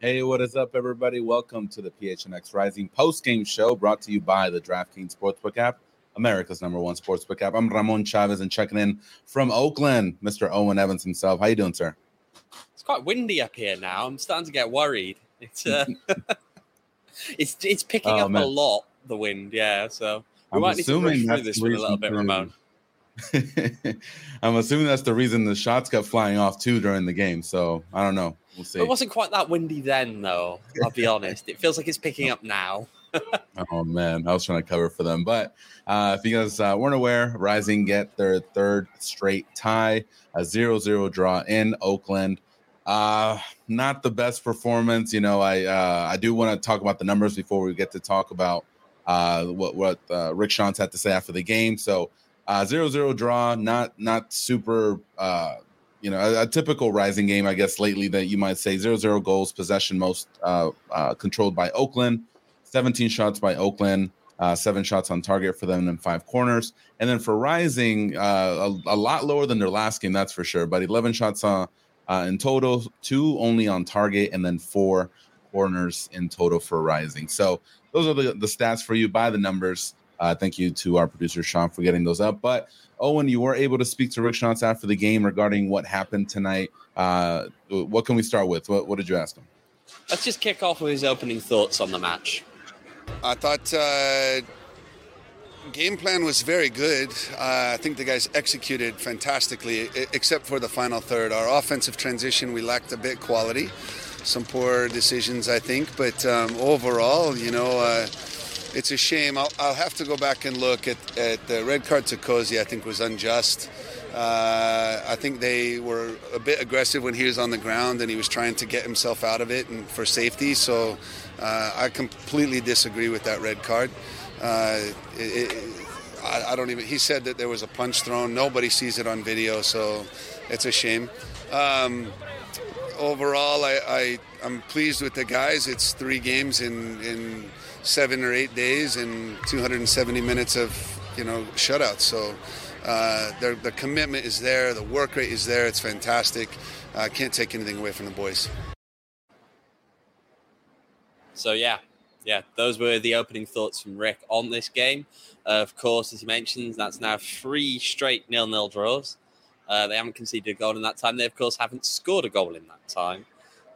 Hey, what is up, everybody? Welcome to the PHNX Rising post-game show brought to you by the DraftKings Sportsbook app, America's #1 sportsbook app. I'm Ramon Chavez and checking in from Oakland, Mr. Owen Evans himself. How you doing, sir? It's quite windy up here now. I'm starting to get worried. It's it's picking up a lot, the wind, yeah. So we might need to rush through this with a little bit, Ramon. I'm assuming that's the reason the shots kept flying off, too, during the game. So I don't know. We'll see. It wasn't quite that windy then, though. I'll be honest. It feels like it's picking up now. Oh, man. I was trying to cover for them. But if you guys weren't aware, Rising get their third straight tie, a 0-0 draw in Oakland. Not the best performance. You know, I do want to talk about the numbers before we get to talk about what Rick Schantz had to say after the game. So 0-0 draw, not super a typical Rising game, I guess, lately that you might say. 0-0 goals, possession most controlled by Oakland, 17 shots by Oakland, 7 shots on target for them and 5 corners. And then for Rising, a lot lower than their last game, that's for sure. But 11 shots in total, 2 only on target, and then 4 corners in total for Rising. So those are the stats for you by the numbers. Thank you to our producer, Sean, for getting those up. But, Owen, you were able to speak to Rick Schantz after the game regarding what happened tonight. What can we start with? What did you ask him? Let's just kick off with his opening thoughts on the match. I thought game plan was very good. I think the guys executed fantastically, except for the final third. Our offensive transition, we lacked a bit quality. Some poor decisions, I think. But overall, it's a shame. I'll have to go back and look at the red card to Cozy. I think was unjust. I think they were a bit aggressive when he was on the ground and he was trying to get himself out of it and for safety. So I completely disagree with that red card. I don't even. He said that there was a punch thrown. Nobody sees it on video, so it's a shame. Overall, I'm pleased with the guys. It's 3 games in 7 or 8 days and 270 minutes of shutouts. So the commitment is there, the work rate is there. It's fantastic. I can't take anything away from the boys. So yeah, those were the opening thoughts from Rick on this game. Of course, as he mentions, that's now 3 straight 0-0 draws. They haven't conceded a goal in that time. They, of course, haven't scored a goal in that time.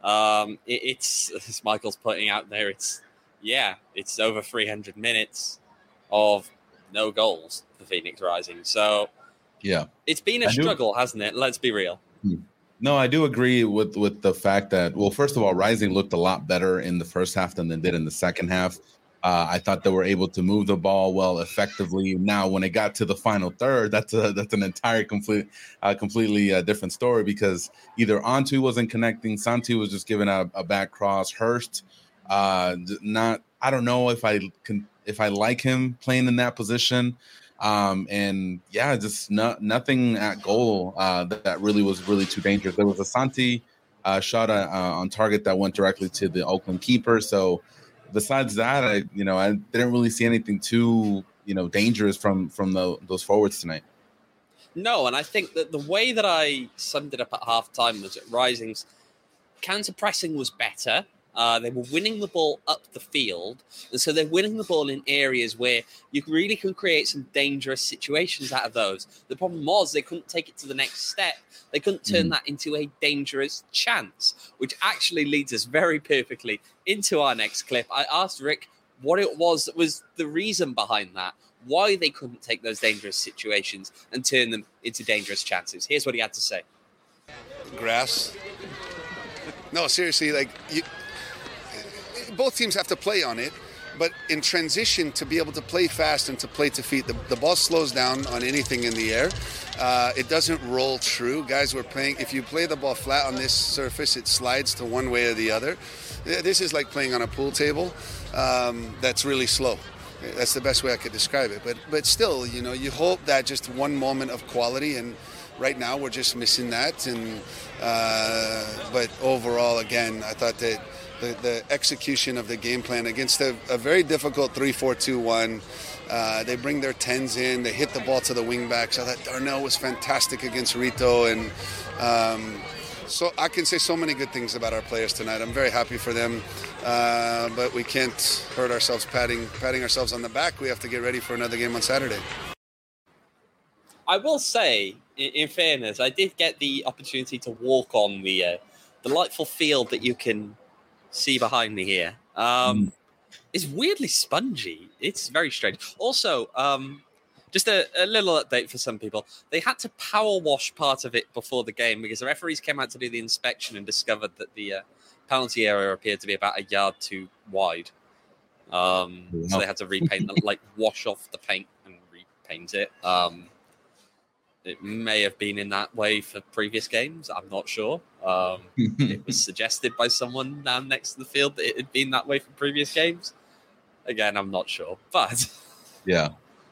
It's, as Michael's pointing out there, it's over 300 minutes of no goals for Phoenix Rising. So, yeah, it's been a struggle, hasn't it? Let's be real. No, I do agree with the fact that, well, first of all, Rising looked a lot better in the first half than they did in the second half. I thought they were able to move the ball well effectively. Now, when it got to the final third, that's an entire completely different story because either Antu wasn't connecting, Santi was just giving a back cross. Hurst, I don't know if I like him playing in that position. And yeah, just nothing at goal that really was too dangerous. There was a Santi shot on target that went directly to the Oakland keeper. So besides that, I didn't really see anything too dangerous from those forwards tonight. No, and I think that the way that I summed it up at halftime was that Rising's counter pressing was better. They were winning the ball up the field, and so they're winning the ball in areas where you really can create some dangerous situations out of those. The problem was they couldn't take it to the next step. They couldn't turn that into a dangerous chance, which actually leads us very perfectly into our next clip. I asked Rick what it was that was the reason behind that, why they couldn't take those dangerous situations and turn them into dangerous chances. Here's what he had to say. Grass. No, seriously, both teams have to play on it, but in transition, to be able to play fast and to play to feet, the ball slows down on anything in the air. It doesn't roll true. Guys, we're playing, if you play the ball flat on this surface, it slides to one way or the other. This is like playing on a pool table that's really slow. That's the best way I could describe it. But still, you hope that just one moment of quality, and right now we're just missing that. But overall, again, I thought that the execution of the game plan against a very difficult 3-4-2-1. They bring their 10s in. They hit the ball to the wingbacks. I thought Darnell was fantastic against Rito. And So I can say so many good things about our players tonight. I'm very happy for them, but we can't hurt ourselves patting ourselves on the back. We have to get ready for another game on Saturday. I will say, in fairness, I did get the opportunity to walk on the delightful field that you can see behind me here. It's weirdly spongy. It's very strange. Also, just a little update for some people. They had to power wash part of it before the game because the referees came out to do the inspection and discovered that the penalty area appeared to be about a yard too wide. So they had to repaint, wash off the paint and repaint it. It may have been in that way for previous games. I'm not sure. It was suggested by someone down next to the field that it had been that way for previous games. Again, I'm not sure, but yeah.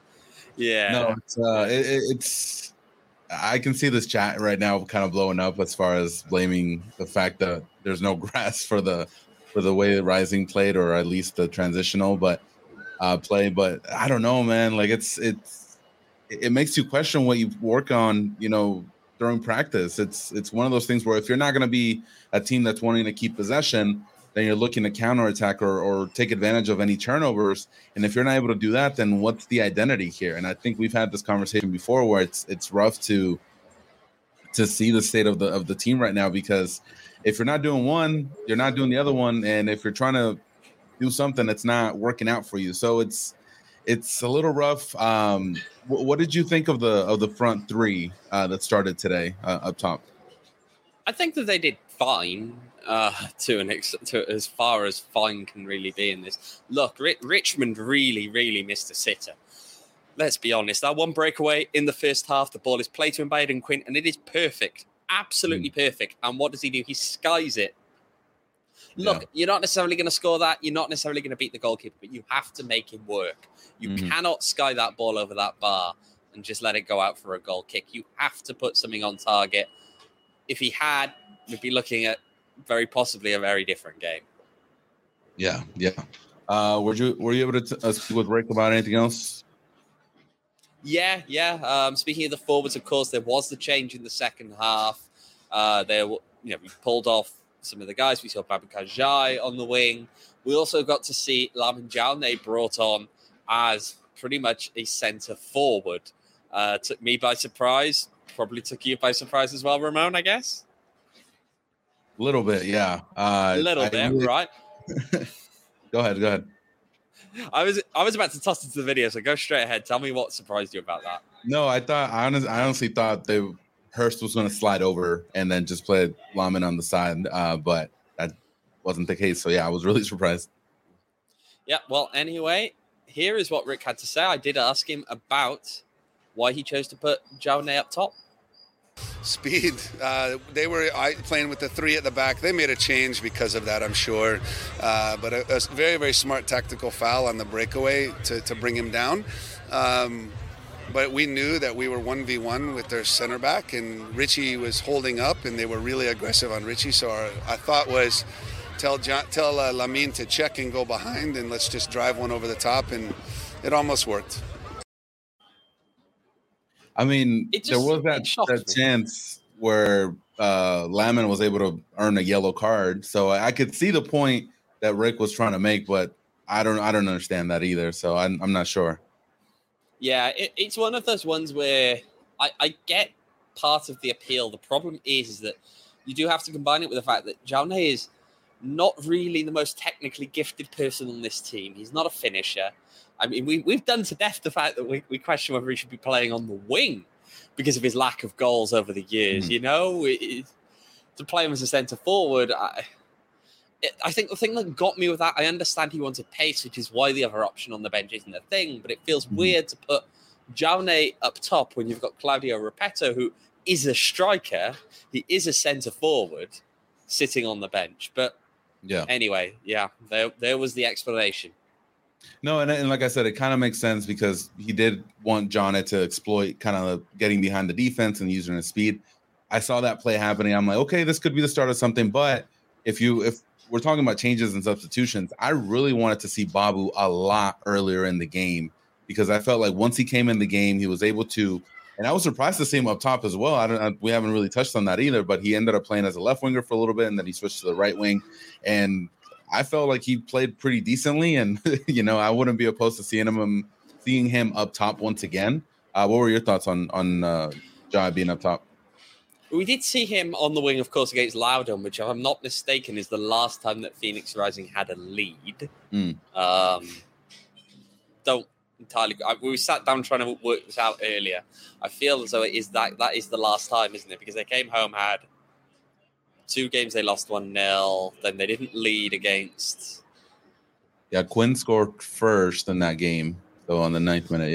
No, it's. I can see this chat right now kind of blowing up as far as blaming the fact that there's no grass for the way the Rising played, or at least the transitional play. But I don't know, man. Like it makes you question what you work on, during practice. It's one of those things where if you're not going to be a team that's wanting to keep possession, then you're looking to counterattack or take advantage of any turnovers. And if you're not able to do that, then what's the identity here? And I think we've had this conversation before where it's rough to see the state of the team right now, because if you're not doing one, you're not doing the other one. And if you're trying to do something, it's not working out for you. So it's a little rough. What did you think of the front three that started today up top? I think that they did fine to as far as fine can really be in this. Look, Richmond really, really missed a sitter. Let's be honest. That one breakaway in the first half, the ball is played to him by Aidan Quinn, and it is perfect. Absolutely perfect. And what does he do? He skies it. Look, You're not necessarily going to score that. You're not necessarily going to beat the goalkeeper, but you have to make him work. You cannot sky that ball over that bar and just let it go out for a goal kick. You have to put something on target. If he had, we'd be looking at very possibly a very different game. Yeah. Were you able to speak with Rick about anything else? Yeah. Speaking of the forwards, of course, there was the change in the second half. We pulled off some of the guys. We saw Babacar Jai on the wing. We also got to see Lamin Jaune brought on as pretty much a centre forward. Took me by surprise. Probably took you by surprise as well, Ramon, I guess. A little bit, yeah. Right? Go ahead. I was about to toss into the video, so go straight ahead. Tell me what surprised you about that. No, I honestly thought Hurst was going to slide over and then just play Lamin on the side, but that wasn't the case. So yeah, I was really surprised. Yeah. Well, anyway, here is what Rick had to say. I did ask him about why he chose to put Jaune up top. Speed. They were playing with the three at the back. They made a change because of that, I'm sure. But a very, very smart tactical foul on the breakaway to bring him down. But we knew that we were 1v1 with their center back, and Richie was holding up, and they were really aggressive on Richie. So our thought was tell Lamin to check and go behind, and let's just drive one over the top, and it almost worked. I mean, there was that chance where Lamin was able to earn a yellow card. So I could see the point that Rick was trying to make, but I don't understand that either. So I'm not sure. Yeah, it's one of those ones where I get part of the appeal. The problem is that you do have to combine it with the fact that Jaune is not really the most technically gifted person on this team. He's not a finisher. I mean, we've done to death the fact that we question whether he should be playing on the wing because of his lack of goals over the years. To play him as a centre forward, I think the thing that got me with that, I understand he wanted pace, which is why the other option on the bench isn't a thing, but it feels weird to put Jaune up top when you've got Claudio Repetto, who is a striker. He is a centre forward sitting on the bench. But anyway, there was the explanation. No, and like I said, it kind of makes sense because he did want Jaune to exploit kind of getting behind the defense and using his speed. I saw that play happening. I'm like, okay, this could be the start of something. But if we're talking about changes and substitutions, I really wanted to see Babu a lot earlier in the game because I felt like once he came in the game, he was able to And I was surprised to see him up top as well. We haven't really touched on that either, but he ended up playing as a left winger for a little bit, and then he switched to the right wing. And I felt like he played pretty decently, and I wouldn't be opposed to seeing him up top once again. What were your thoughts on Jai being up top? We did see him on the wing, of course, against Loudon, which, if I'm not mistaken, is the last time that Phoenix Rising had a lead. Don't entirely. We sat down trying to work this out earlier. I feel as though it is that is the last time, isn't it? Because they came home, had 2 games, they lost 1-0. Then they didn't lead against. Yeah, Quinn scored first in that game, so on the 9th minute.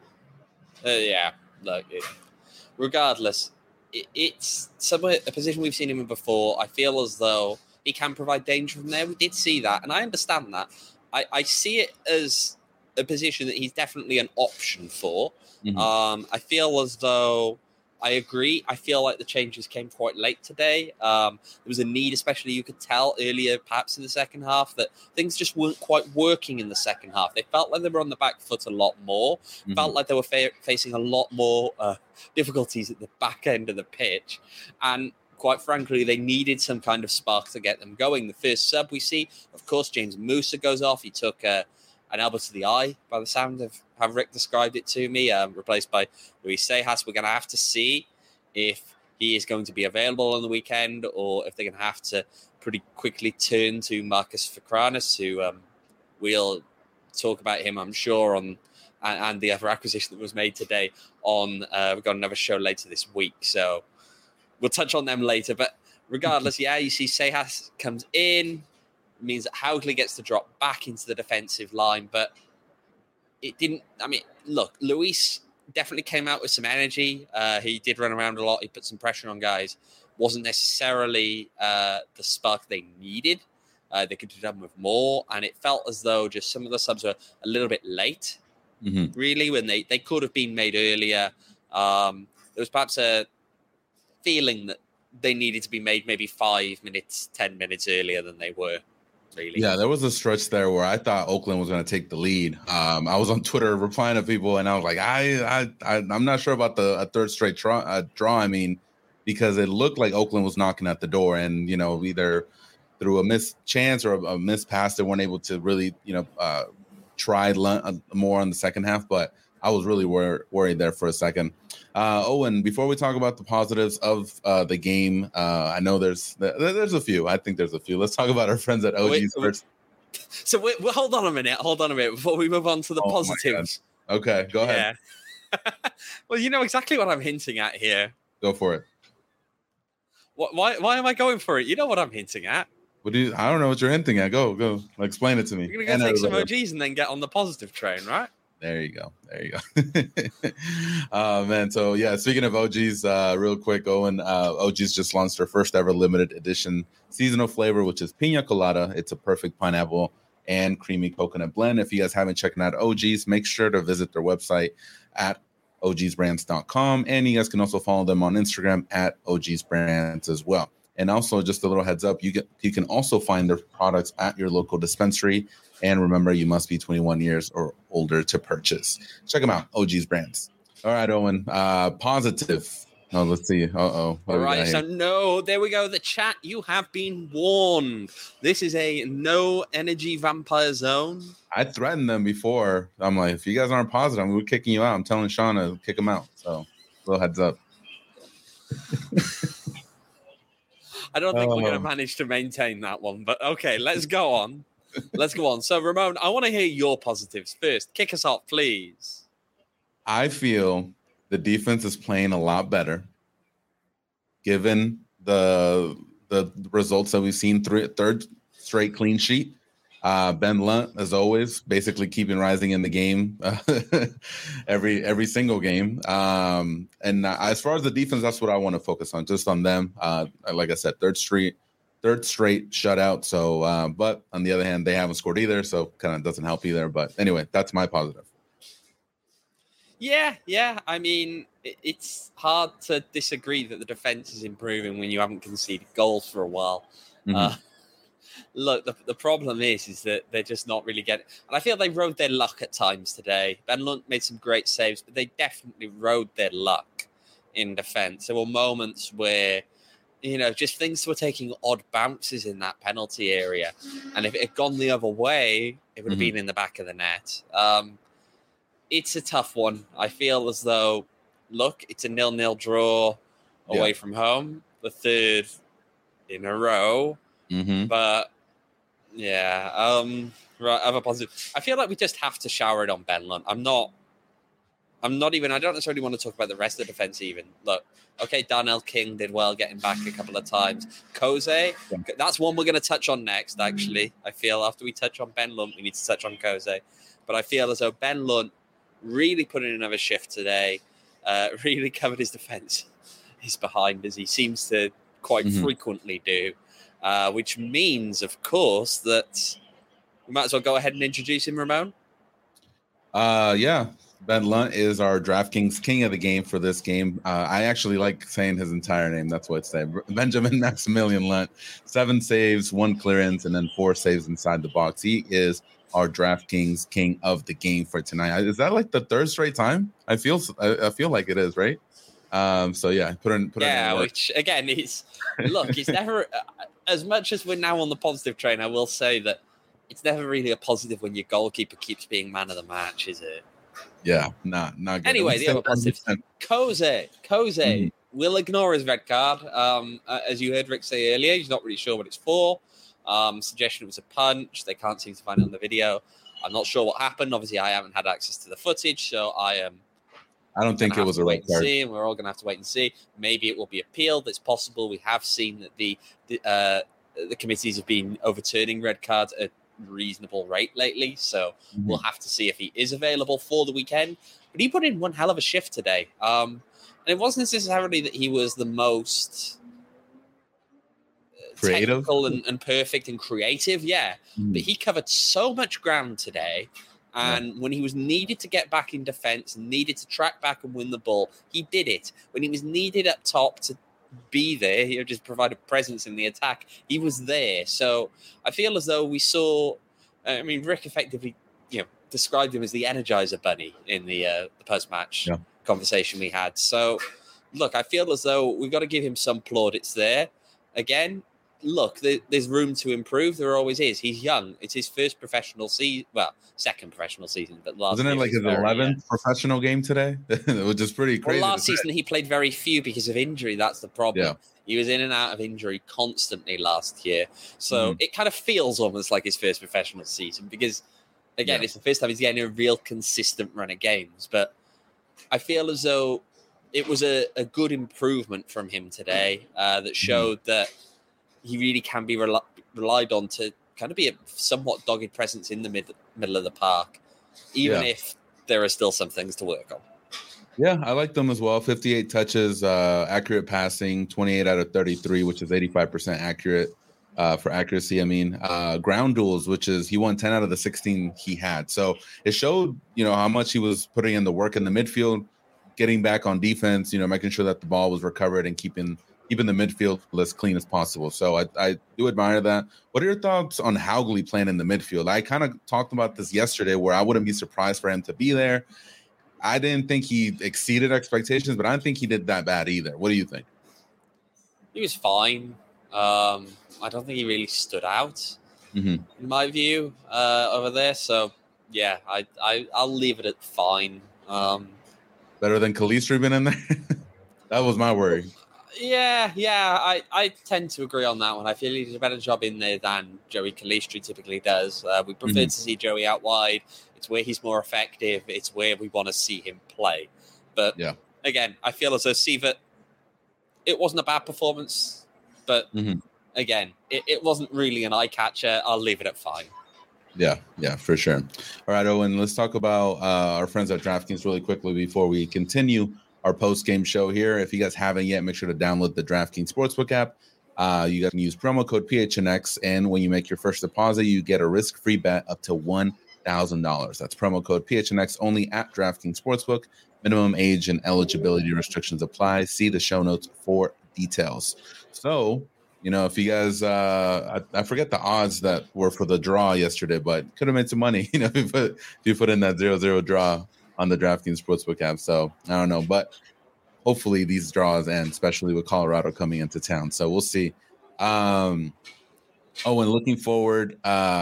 Yeah. Look, regardless, it's somewhere a position we've seen him in before. I feel as though he can provide danger from there. We did see that, and I understand that. I see it as a position that he's definitely an option for. Mm-hmm. I feel as though I agree. I feel like the changes came quite late today. There was a need, especially you could tell earlier, perhaps in the second half, that things just weren't quite working in the second half. They felt like they were on the back foot a lot more. Mm-hmm. Felt like they were facing a lot more difficulties at the back end of the pitch. And quite frankly, they needed some kind of spark to get them going. The first sub we see, of course, James Musa goes off. He took an elbow to the eye, by the sound of how Rick described it to me, replaced by Luis Sejas. We're going to have to see if he is going to be available on the weekend, or if they're going to have to pretty quickly turn to Marcus Fakranis, who we'll talk about him, I'm sure, and the other acquisition that was made today on. We've got another show later this week, so we'll touch on them later. But regardless, yeah, you see Sejas comes in, means that Hougley gets to drop back into the defensive line, but it didn't. I mean, look, Luis definitely came out with some energy. He did run around a lot. He put some pressure on guys. Wasn't necessarily the spark they needed. They could have done with more, and it felt as though just some of the subs were a little bit late, really, when they could have been made earlier. There was perhaps a feeling that they needed to be made maybe 5 minutes, 10 minutes earlier than they were. Really. Yeah, there was a stretch there where I thought Oakland was going to take the lead. I was on Twitter replying to people, and I was like, I'm not sure about a third straight draw. I mean, because it looked like Oakland was knocking at the door, and either through a missed chance or a missed pass, they weren't able to really try more on the second half. But I was really worried there for a second. Owen, before we talk about the positives of the game, I know there's a few. I think there's a few. Let's talk about our friends at OGs first. So hold on a minute before we move on to the positives. Okay, go ahead. Yeah. Well, you know exactly what I'm hinting at here. Go for it. Why am I going for it? You know what I'm hinting at. I don't know what you're hinting at. Go. Explain it to me. You're going to go take some OGs and then get on the positive train, right? There you go. Man. So yeah, speaking of OGs, real quick, Owen, OGs just launched their first ever limited edition seasonal flavor, which is Pina Colada. It's a perfect pineapple and creamy coconut blend. If you guys haven't checked out OGs, make sure to visit their website at ogsbrands.com. And you guys can also follow them on Instagram at ogsbrands as well. And also, just a little heads up, you can also find their products at your local dispensary. And remember, you must be 21 years or older to purchase. Check them out, OG's Brands. All right, Owen, positive. Oh, let's see. Uh-oh. All right, so no, there we go. The chat, you have been warned. This is a no energy vampire zone. I threatened them before. I'm like, if you guys aren't positive, we're kicking you out. I'm telling Sean to kick them out. So, little heads up. I don't think we're going to manage to maintain that one, but okay, let's go on. So, Ramon, I want to hear your positives first. Kick us off, please. I feel the defense is playing a lot better, given the results that we've seen. Third straight clean sheet. Ben Lunt, as always, basically keeping Rising in the game every single game. And as far as the defense, that's what I want to focus on, just on them. Like I said, third straight shutout. So, but on the other hand, they haven't scored either, so kind of doesn't help either. But anyway, that's my positive. Yeah. I mean, it's hard to disagree that the defense is improving when you haven't conceded goals for a while. Mm-hmm. Look, the problem is that they're just not really getting... And I feel they rode their luck at times today. Ben Lunt made some great saves, but they definitely rode their luck. in defense. There were moments where, just things were taking odd bounces in that penalty area. And if it had gone the other way, it would have been in the back of the net. It's a tough one. I feel as though, look, it's a 0-0 draw away from home, the third in a row. But, right, other positive. I feel like we just have to shower it on Ben Lunt. I don't necessarily want to talk about the rest of the defense even. Look, okay, Darnell King did well getting back a couple of times. Koze, that's one we're going to touch on next, actually. I feel after we touch on Ben Lunt, we need to touch on Koze. But I feel as though Ben Lunt really put in another shift today, really covered his defense. He's behind, as he seems to quite frequently do, which means, of course, that we might as well go ahead and introduce him, Ramon. Yeah. Ben Lunt is our DraftKings king of the game for this game. I actually like saying his entire name. That's what it's saying. Benjamin Maximilian Lunt. 7 saves, 1 clearance, and then 4 saves inside the box. He is our DraftKings king of the game for tonight. Is that like the third straight time? I feel like it is, right? So yeah, put in which again is look, it's never as much as we're now on the positive train. I will say that it's never really a positive when your goalkeeper keeps being man of the match, is it? Yeah, not good. Anyway, the other positive. Koze will ignore his red card. As you heard Rick say earlier, he's not really sure what it's for. Suggestion it was a punch. They can't seem to find it on the video. I'm not sure what happened. Obviously, I haven't had access to the footage, so I don't think it was a red card. We're all going to have to wait and see. Maybe it will be appealed. It's possible. We have seen that the committees have been overturning red cards at reasonable rate lately, so we'll have to see if he is available for the weekend. But he put in one hell of a shift today, and it wasn't necessarily that he was the most creative and perfect and creative, but he covered so much ground today, and when he was needed to get back in defense and needed to track back and win the ball, he did it. When he was needed up top to be there, he just provided presence in the attack. He was there. So I feel as though we saw, Rick effectively, described him as the Energizer Bunny in the post-match conversation we had. So look, I feel as though we've got to give him some plaudits there. Again, look, there's room to improve. There always is. He's young. It's his first professional season. Well, second professional season, but last wasn't it like his 11th professional game today? Which is pretty crazy. Well, last season he played very few because of injury. That's the problem. Yeah. He was in and out of injury constantly last year. So it kind of feels almost like his first professional season because, again, it's the first time he's getting a real consistent run of games. But I feel as though it was a good improvement from him today that showed that he really can be relied on to kind of be a somewhat dogged presence in the middle of the park, even if there are still some things to work on. Yeah, I like them as well. 58 touches, accurate passing, 28 out of 33, which is 85% accurate for accuracy. Ground duels, which is he won 10 out of the 16 he had. So it showed, how much he was putting in the work in the midfield, getting back on defense, making sure that the ball was recovered and keeping the midfield as clean as possible. So I do admire that. What are your thoughts on Haugley playing in the midfield? I kind of talked about this yesterday where I wouldn't be surprised for him to be there. I didn't think he exceeded expectations, but I don't think he did that bad either. What do you think? He was fine. I don't think he really stood out in my view over there. So, yeah, I'll leave it at fine. Better than Calistri been in there? That was my worry. Yeah, I tend to agree on that one. I feel he did a better job in there than Joey Calistri typically does. We prefer to see Joey out wide. It's where he's more effective. It's where we want to see him play. But again, I feel as though Sievert, it wasn't a bad performance, but again, it wasn't really an eye catcher. I'll leave it at fine. Yeah, for sure. All right, Owen, let's talk about our friends at DraftKings really quickly before we continue our post-game show here. If you guys haven't yet, make sure to download the DraftKings Sportsbook app. You guys can use promo code PHNX, and when you make your first deposit, you get a risk-free bet up to $1,000. That's promo code PHNX only at DraftKings Sportsbook. Minimum age and eligibility restrictions apply. See the show notes for details. So, if you guys, I forget the odds that were for the draw yesterday, but could have made some money, if you put in that 0-0 draw on the DraftKings Sportsbook app. So I don't know, but hopefully these draws end, especially with Colorado coming into town. So we'll see. And looking forward,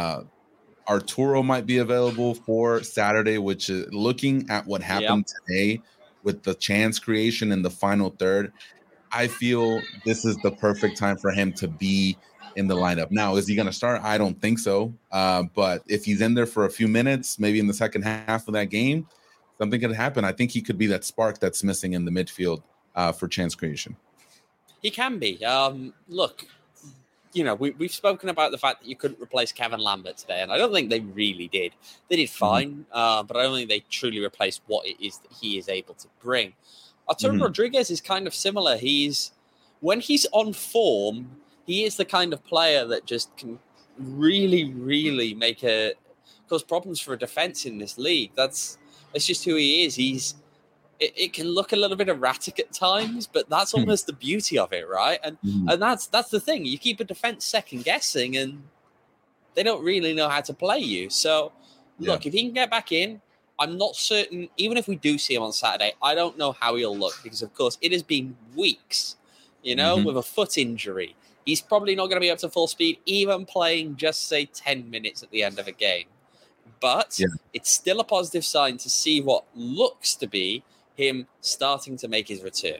Arturo might be available for Saturday, which is looking at what happened today with the chance creation in the final third. I feel this is the perfect time for him to be in the lineup. Now, is he going to start? I don't think so. But if he's in there for a few minutes, maybe in the second half of that game, something could happen. I think he could be that spark that's missing in the midfield for chance creation. He can be. Look, we've spoken about the fact that you couldn't replace Kevin Lambert today, and I don't think they really did. They did fine, but I don't think they truly replaced what it is that he is able to bring. Arturo Rodriguez is kind of similar. When he's on form, he is the kind of player that just can really, really cause problems for a defense in this league. That's just who he is. It can look a little bit erratic at times, but that's almost the beauty of it, right? And that's the thing. You keep a defense second guessing, and they don't really know how to play you. So, look, if he can get back in, I'm not certain. Even if we do see him on Saturday, I don't know how he'll look because, of course, it has been weeks, with a foot injury. He's probably not going to be up to full speed, even playing just, say, 10 minutes at the end of a game. But it's still a positive sign to see what looks to be him starting to make his return.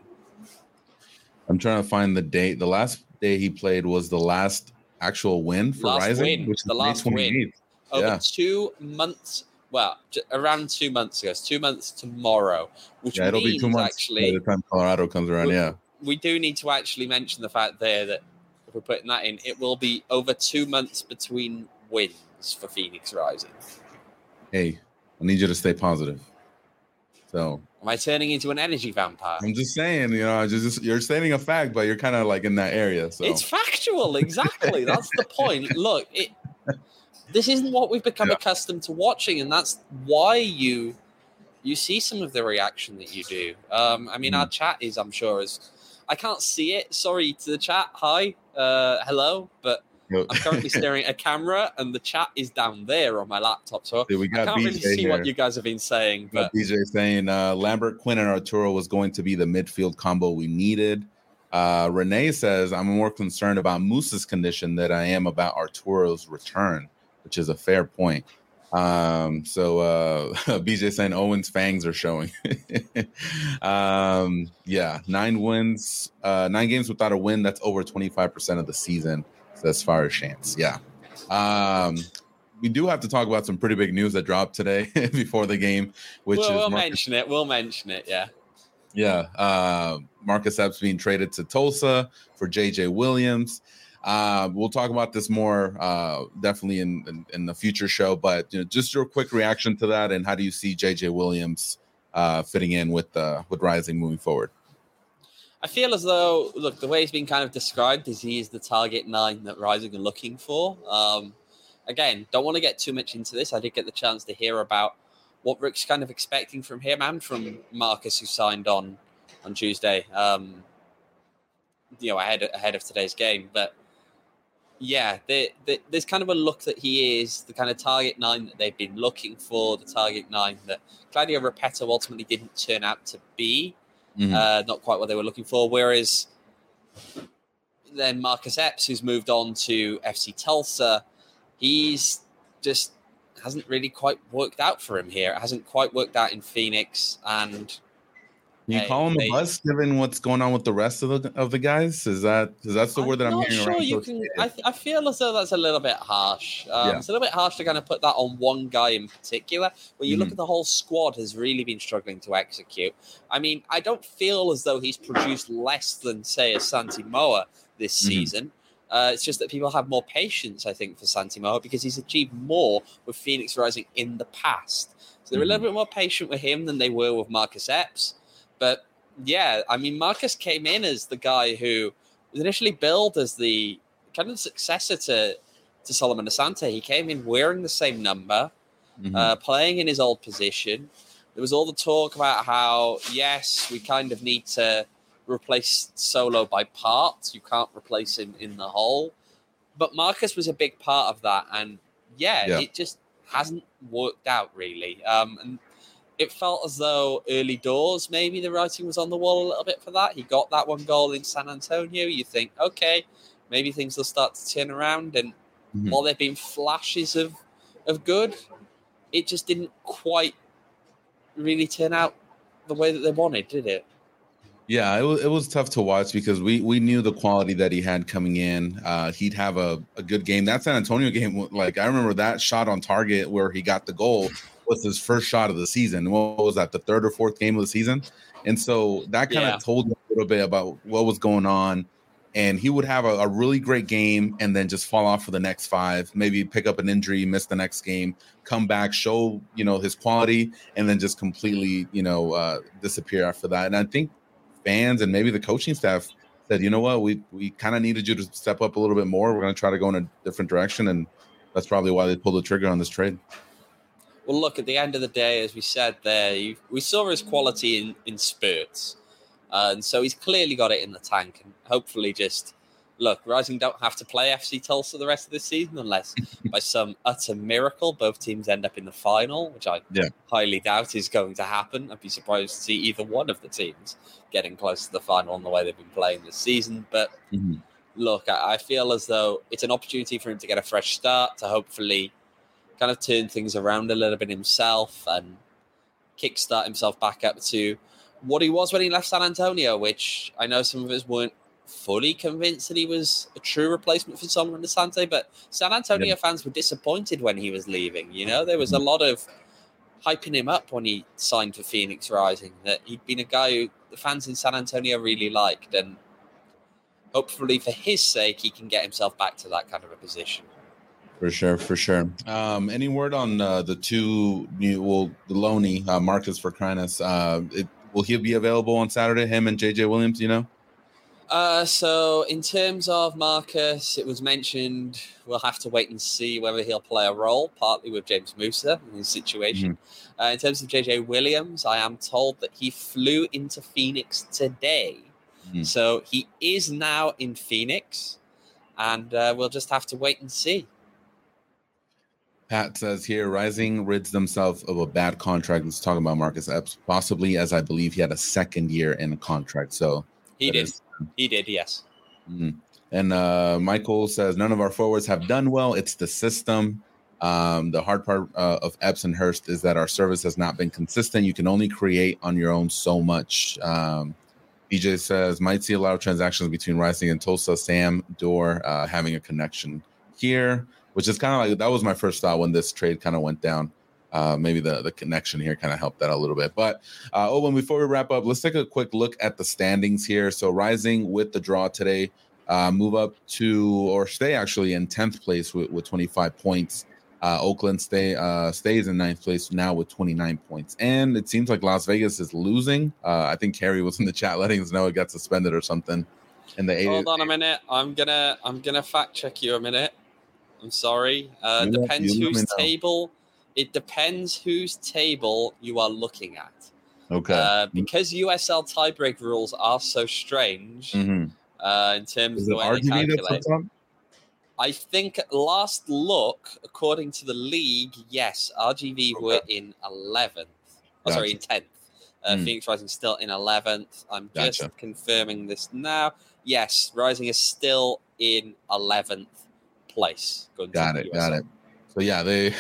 I'm trying to find the date. The last day he played was the last actual win for Rising, which is the last win. Over 2 months. Well, around 2 months ago. It's 2 months tomorrow, which means it'll be 2 months actually by the time Colorado comes around. We do need to actually mention the fact there that if we're putting that in, it will be over 2 months between wins for Phoenix Rising. Hey, I need you to stay positive. So, am I turning into an energy vampire? I'm just saying, you're stating a fact, but you're kind of like in that area. So it's factual, exactly. That's the point. Look, this isn't what we've become accustomed to watching, and that's why you see some of the reaction that you do. Our chat is, I'm sure, I can't see it. Sorry to the chat. Hi, hello, but I'm currently staring at a camera, and the chat is down there on my laptop, so we got I can't really see what you guys have been saying. But BJ saying Lambert, Quinn, and Arturo was going to be the midfield combo we needed. Renee says, I'm more concerned about Moose's condition than I am about Arturo's return, which is a fair point. BJ saying Owen's fangs are showing. 9 wins, 9 games without a win. That's over 25% of the season. As far as chance. We do have to talk about some pretty big news that dropped today before the game, which we'll mention it. Marcus Epps being traded to Tulsa for JJ Williams. We'll talk about this more definitely in the future show, but just your quick reaction to that, and how do you see JJ Williams fitting in with Rising moving forward? I feel as though, look, the way he's been kind of described is he is the target 9 that Rising are looking for. Again, don't want to get too much into this. I did get the chance to hear about what Rick's kind of expecting from him and from Marcus, who signed on Tuesday, ahead of today's game. But there's kind of a look that he is the kind of target 9 that they've been looking for, the target 9 that Claudio Repetto ultimately didn't turn out to be. Not quite what they were looking for. Whereas then Marcus Epps, who's moved on to FC Tulsa, he's just hasn't really quite worked out for him here. It hasn't quite worked out in Phoenix. And can you call him a bust given what's going on with the rest of the guys? Is that because that's the word that I'm hearing around? You can. I feel as though that's a little bit harsh. It's a little bit harsh to kind of put that on one guy in particular. When you look at the whole squad, has really been struggling to execute. I mean, I don't feel as though he's produced less than, say, a Santi Moa this season. It's just that people have more patience, I think, for Santi Moa because he's achieved more with Phoenix Rising in the past. So they're a little bit more patient with him than they were with Marcus Epps. But Marcus came in as the guy who was initially billed as the kind of successor to Solomon Asante. He came in wearing the same number, playing in his old position. There was all the talk about how, yes, we kind of need to replace Solo by parts. You can't replace him in the whole. But Marcus was a big part of that. And, it just hasn't worked out, really. And it felt as though early doors, maybe the writing was on the wall a little bit for that. He got that one goal in San Antonio. You think, okay, maybe things will start to turn around. And while there have been flashes of good, it just didn't quite really turn out the way that they wanted, did it? Yeah, it was tough to watch because we knew the quality that he had coming in. He'd have a good game. That San Antonio game, like I remember that shot on target where he got the goal was his first shot of the season. What was that, the third or fourth game of the season? And so that kind of told me a little bit about what was going on. And he would have a really great game and then just fall off for the next 5, maybe pick up an injury, miss the next game, come back, show, his quality, and then just completely, disappear after that. And I think fans and maybe the coaching staff said, you know what, we kind of needed you to step up a little bit more. We're going to try to go in a different direction. And that's probably why they pulled the trigger on this trade. Well, look, at the end of the day, as we said there, we saw his quality in spurts. And so he's clearly got it in the tank. And hopefully Rising don't have to play FC Tulsa the rest of this season unless by some utter miracle both teams end up in the final, which I highly doubt is going to happen. I'd be surprised to see either one of the teams getting close to the final in the way they've been playing this season. But look, I feel as though it's an opportunity for him to get a fresh start, to hopefully kind of turn things around a little bit himself and kickstart himself back up to what he was when he left San Antonio, which I know some of us weren't fully convinced that he was a true replacement for Solomon Asante, but San Antonio fans were disappointed when he was leaving. There was a lot of hyping him up when he signed for Phoenix Rising, that he'd been a guy who the fans in San Antonio really liked, and hopefully for his sake, he can get himself back to that kind of a position. For sure. Any word on the two new, Loney, Marcus Vercrinas, will he be available on Saturday, him and JJ Williams, So in terms of Marcus, it was mentioned we'll have to wait and see whether he'll play a role, partly with James Musa in his situation. In terms of JJ Williams, I am told that he flew into Phoenix today. So he is now in Phoenix, and we'll just have to wait and see. Pat says here, Rising rids themselves of a bad contract. Let's talk about Marcus Epps, possibly, as I believe he had a second year in a contract. So he did, yes. And Michael says, none of our forwards have done well. It's the system. The hard part of Epps and Hurst is that our service has not been consistent. You can only create on your own so much. BJ says, might see a lot of transactions between Rising and Tulsa. Sam Dorr having a connection here, which is kind of like, that was my first thought when this trade kind of went down. Maybe the connection here kind of helped that a little bit. But before we wrap up, let's take a quick look at the standings here. So Rising with the draw today, move up to, or stay actually in 10th place with 25 points. Oakland stays in 9th place now with 29 points. And it seems like Las Vegas is losing. I think Carrie was in the chat letting us know it got suspended or something. Hold on a minute. I'm gonna fact check you a minute. I'm sorry. Depends whose table. It depends whose table you are looking at. Okay. Because USL tiebreak rules are so strange in terms of the way they calculate. I think last look, according to the league, yes, RGV were in 11th. Sorry, in 10th. Phoenix Rising still in 11th. I'm just confirming this now. Yes, Rising is still in 11th place. Got it. So yeah,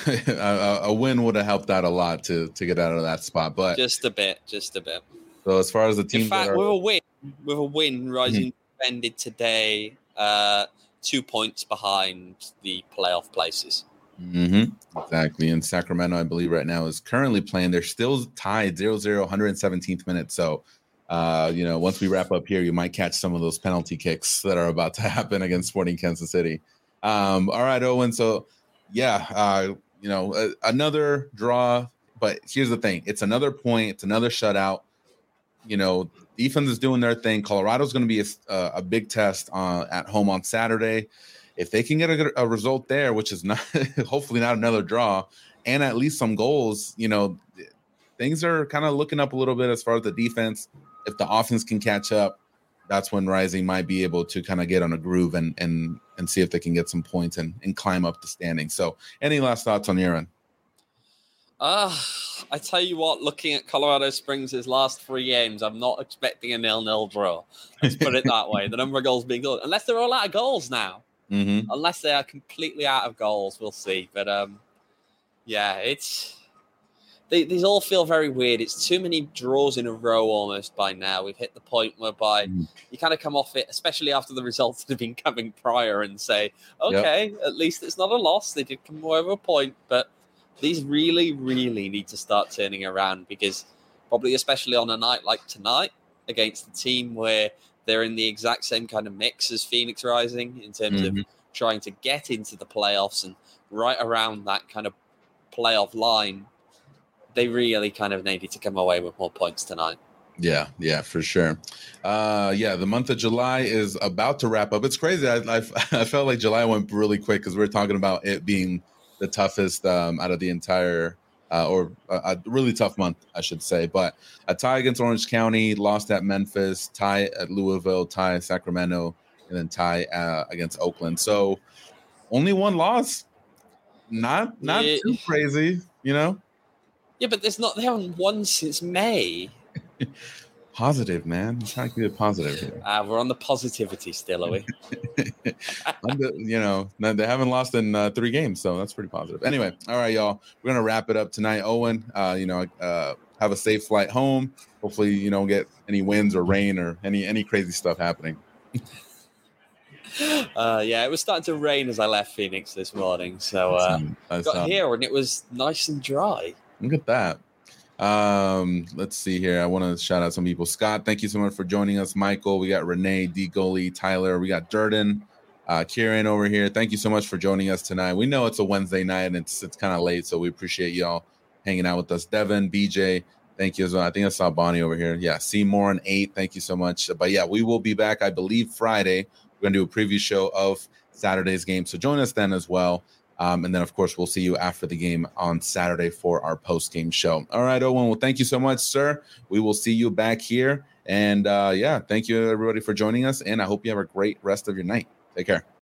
a win would have helped out a lot to get out of that spot, but just a bit. So as far as the team, in fact, with a win, Rising ended today 2 points behind the playoff places. Exactly. And Sacramento, I believe, right now is currently playing. They're still tied 0-0, 117th minute. So, once we wrap up here, you might catch some of those penalty kicks that are about to happen against Sporting Kansas City. All right, Owen. So, another draw. But here's the thing. It's another point. It's another shutout. Defense is doing their thing. Colorado's going to be a big test at home on Saturday. If they can get a result there, which is not hopefully not another draw, and at least some goals, things are kind of looking up a little bit as far as the defense. If the offense can catch up, that's when Rising might be able to kind of get on a groove and see if they can get some points and climb up the standings. So any last thoughts on your end? I tell you what, looking at Colorado Springs' last 3 games, I'm not expecting a 0-0 draw. Let's put it that way. The number of goals being good. Unless they're all out of goals now. Mm-hmm. Unless they are completely out of goals, we'll see. But, yeah, it's... These all feel very weird. It's too many draws in a row almost by now. We've hit the point whereby you kind of come off it, especially after the results that have been coming prior, and say, okay, at least it's not a loss. They did come away with a point, but these really, really need to start turning around, because probably especially on a night like tonight against a team where they're in the exact same kind of mix as Phoenix Rising in terms of trying to get into the playoffs and right around that kind of playoff line, they really kind of needed to come away with more points tonight. Yeah, for sure. The month of July is about to wrap up. It's crazy. I felt like July went really quick because we were talking about it being the toughest out of the entire, or a really tough month, I should say. But a tie against Orange County, lost at Memphis, tie at Louisville, tie at Sacramento, and then tie against Oakland. So only one loss. Not too crazy, you know? Yeah, but they haven't won since May. Positive, man. I'm trying to keep it positive here. We're on the positivity still, are we? They haven't lost in 3 games, so that's pretty positive. Anyway, all right, y'all. We're gonna wrap it up tonight. Owen, have a safe flight home. Hopefully, you don't get any winds or rain or any crazy stuff happening. It was starting to rain as I left Phoenix this morning, so got here and it was nice and dry. Look at that. Let's see here. I want to shout out some people. Scott, thank you so much for joining us. Michael, we got Renee, D. Goalie, Tyler, we got Durden, Kieran over here. Thank you so much for joining us tonight. We know it's a Wednesday night and it's kind of late, so we appreciate y'all hanging out with us. Devin, BJ, thank you as well. I think I saw Bonnie over here. Yeah, Seymour and 8, thank you so much. But yeah, we will be back, I believe, Friday. We're going to do a preview show of Saturday's game, so join us then as well. And then, of course, we'll see you after the game on Saturday for our post-game show. All right, Owen, well, thank you so much, sir. We will see you back here. And, thank you, everybody, for joining us. And I hope you have a great rest of your night. Take care.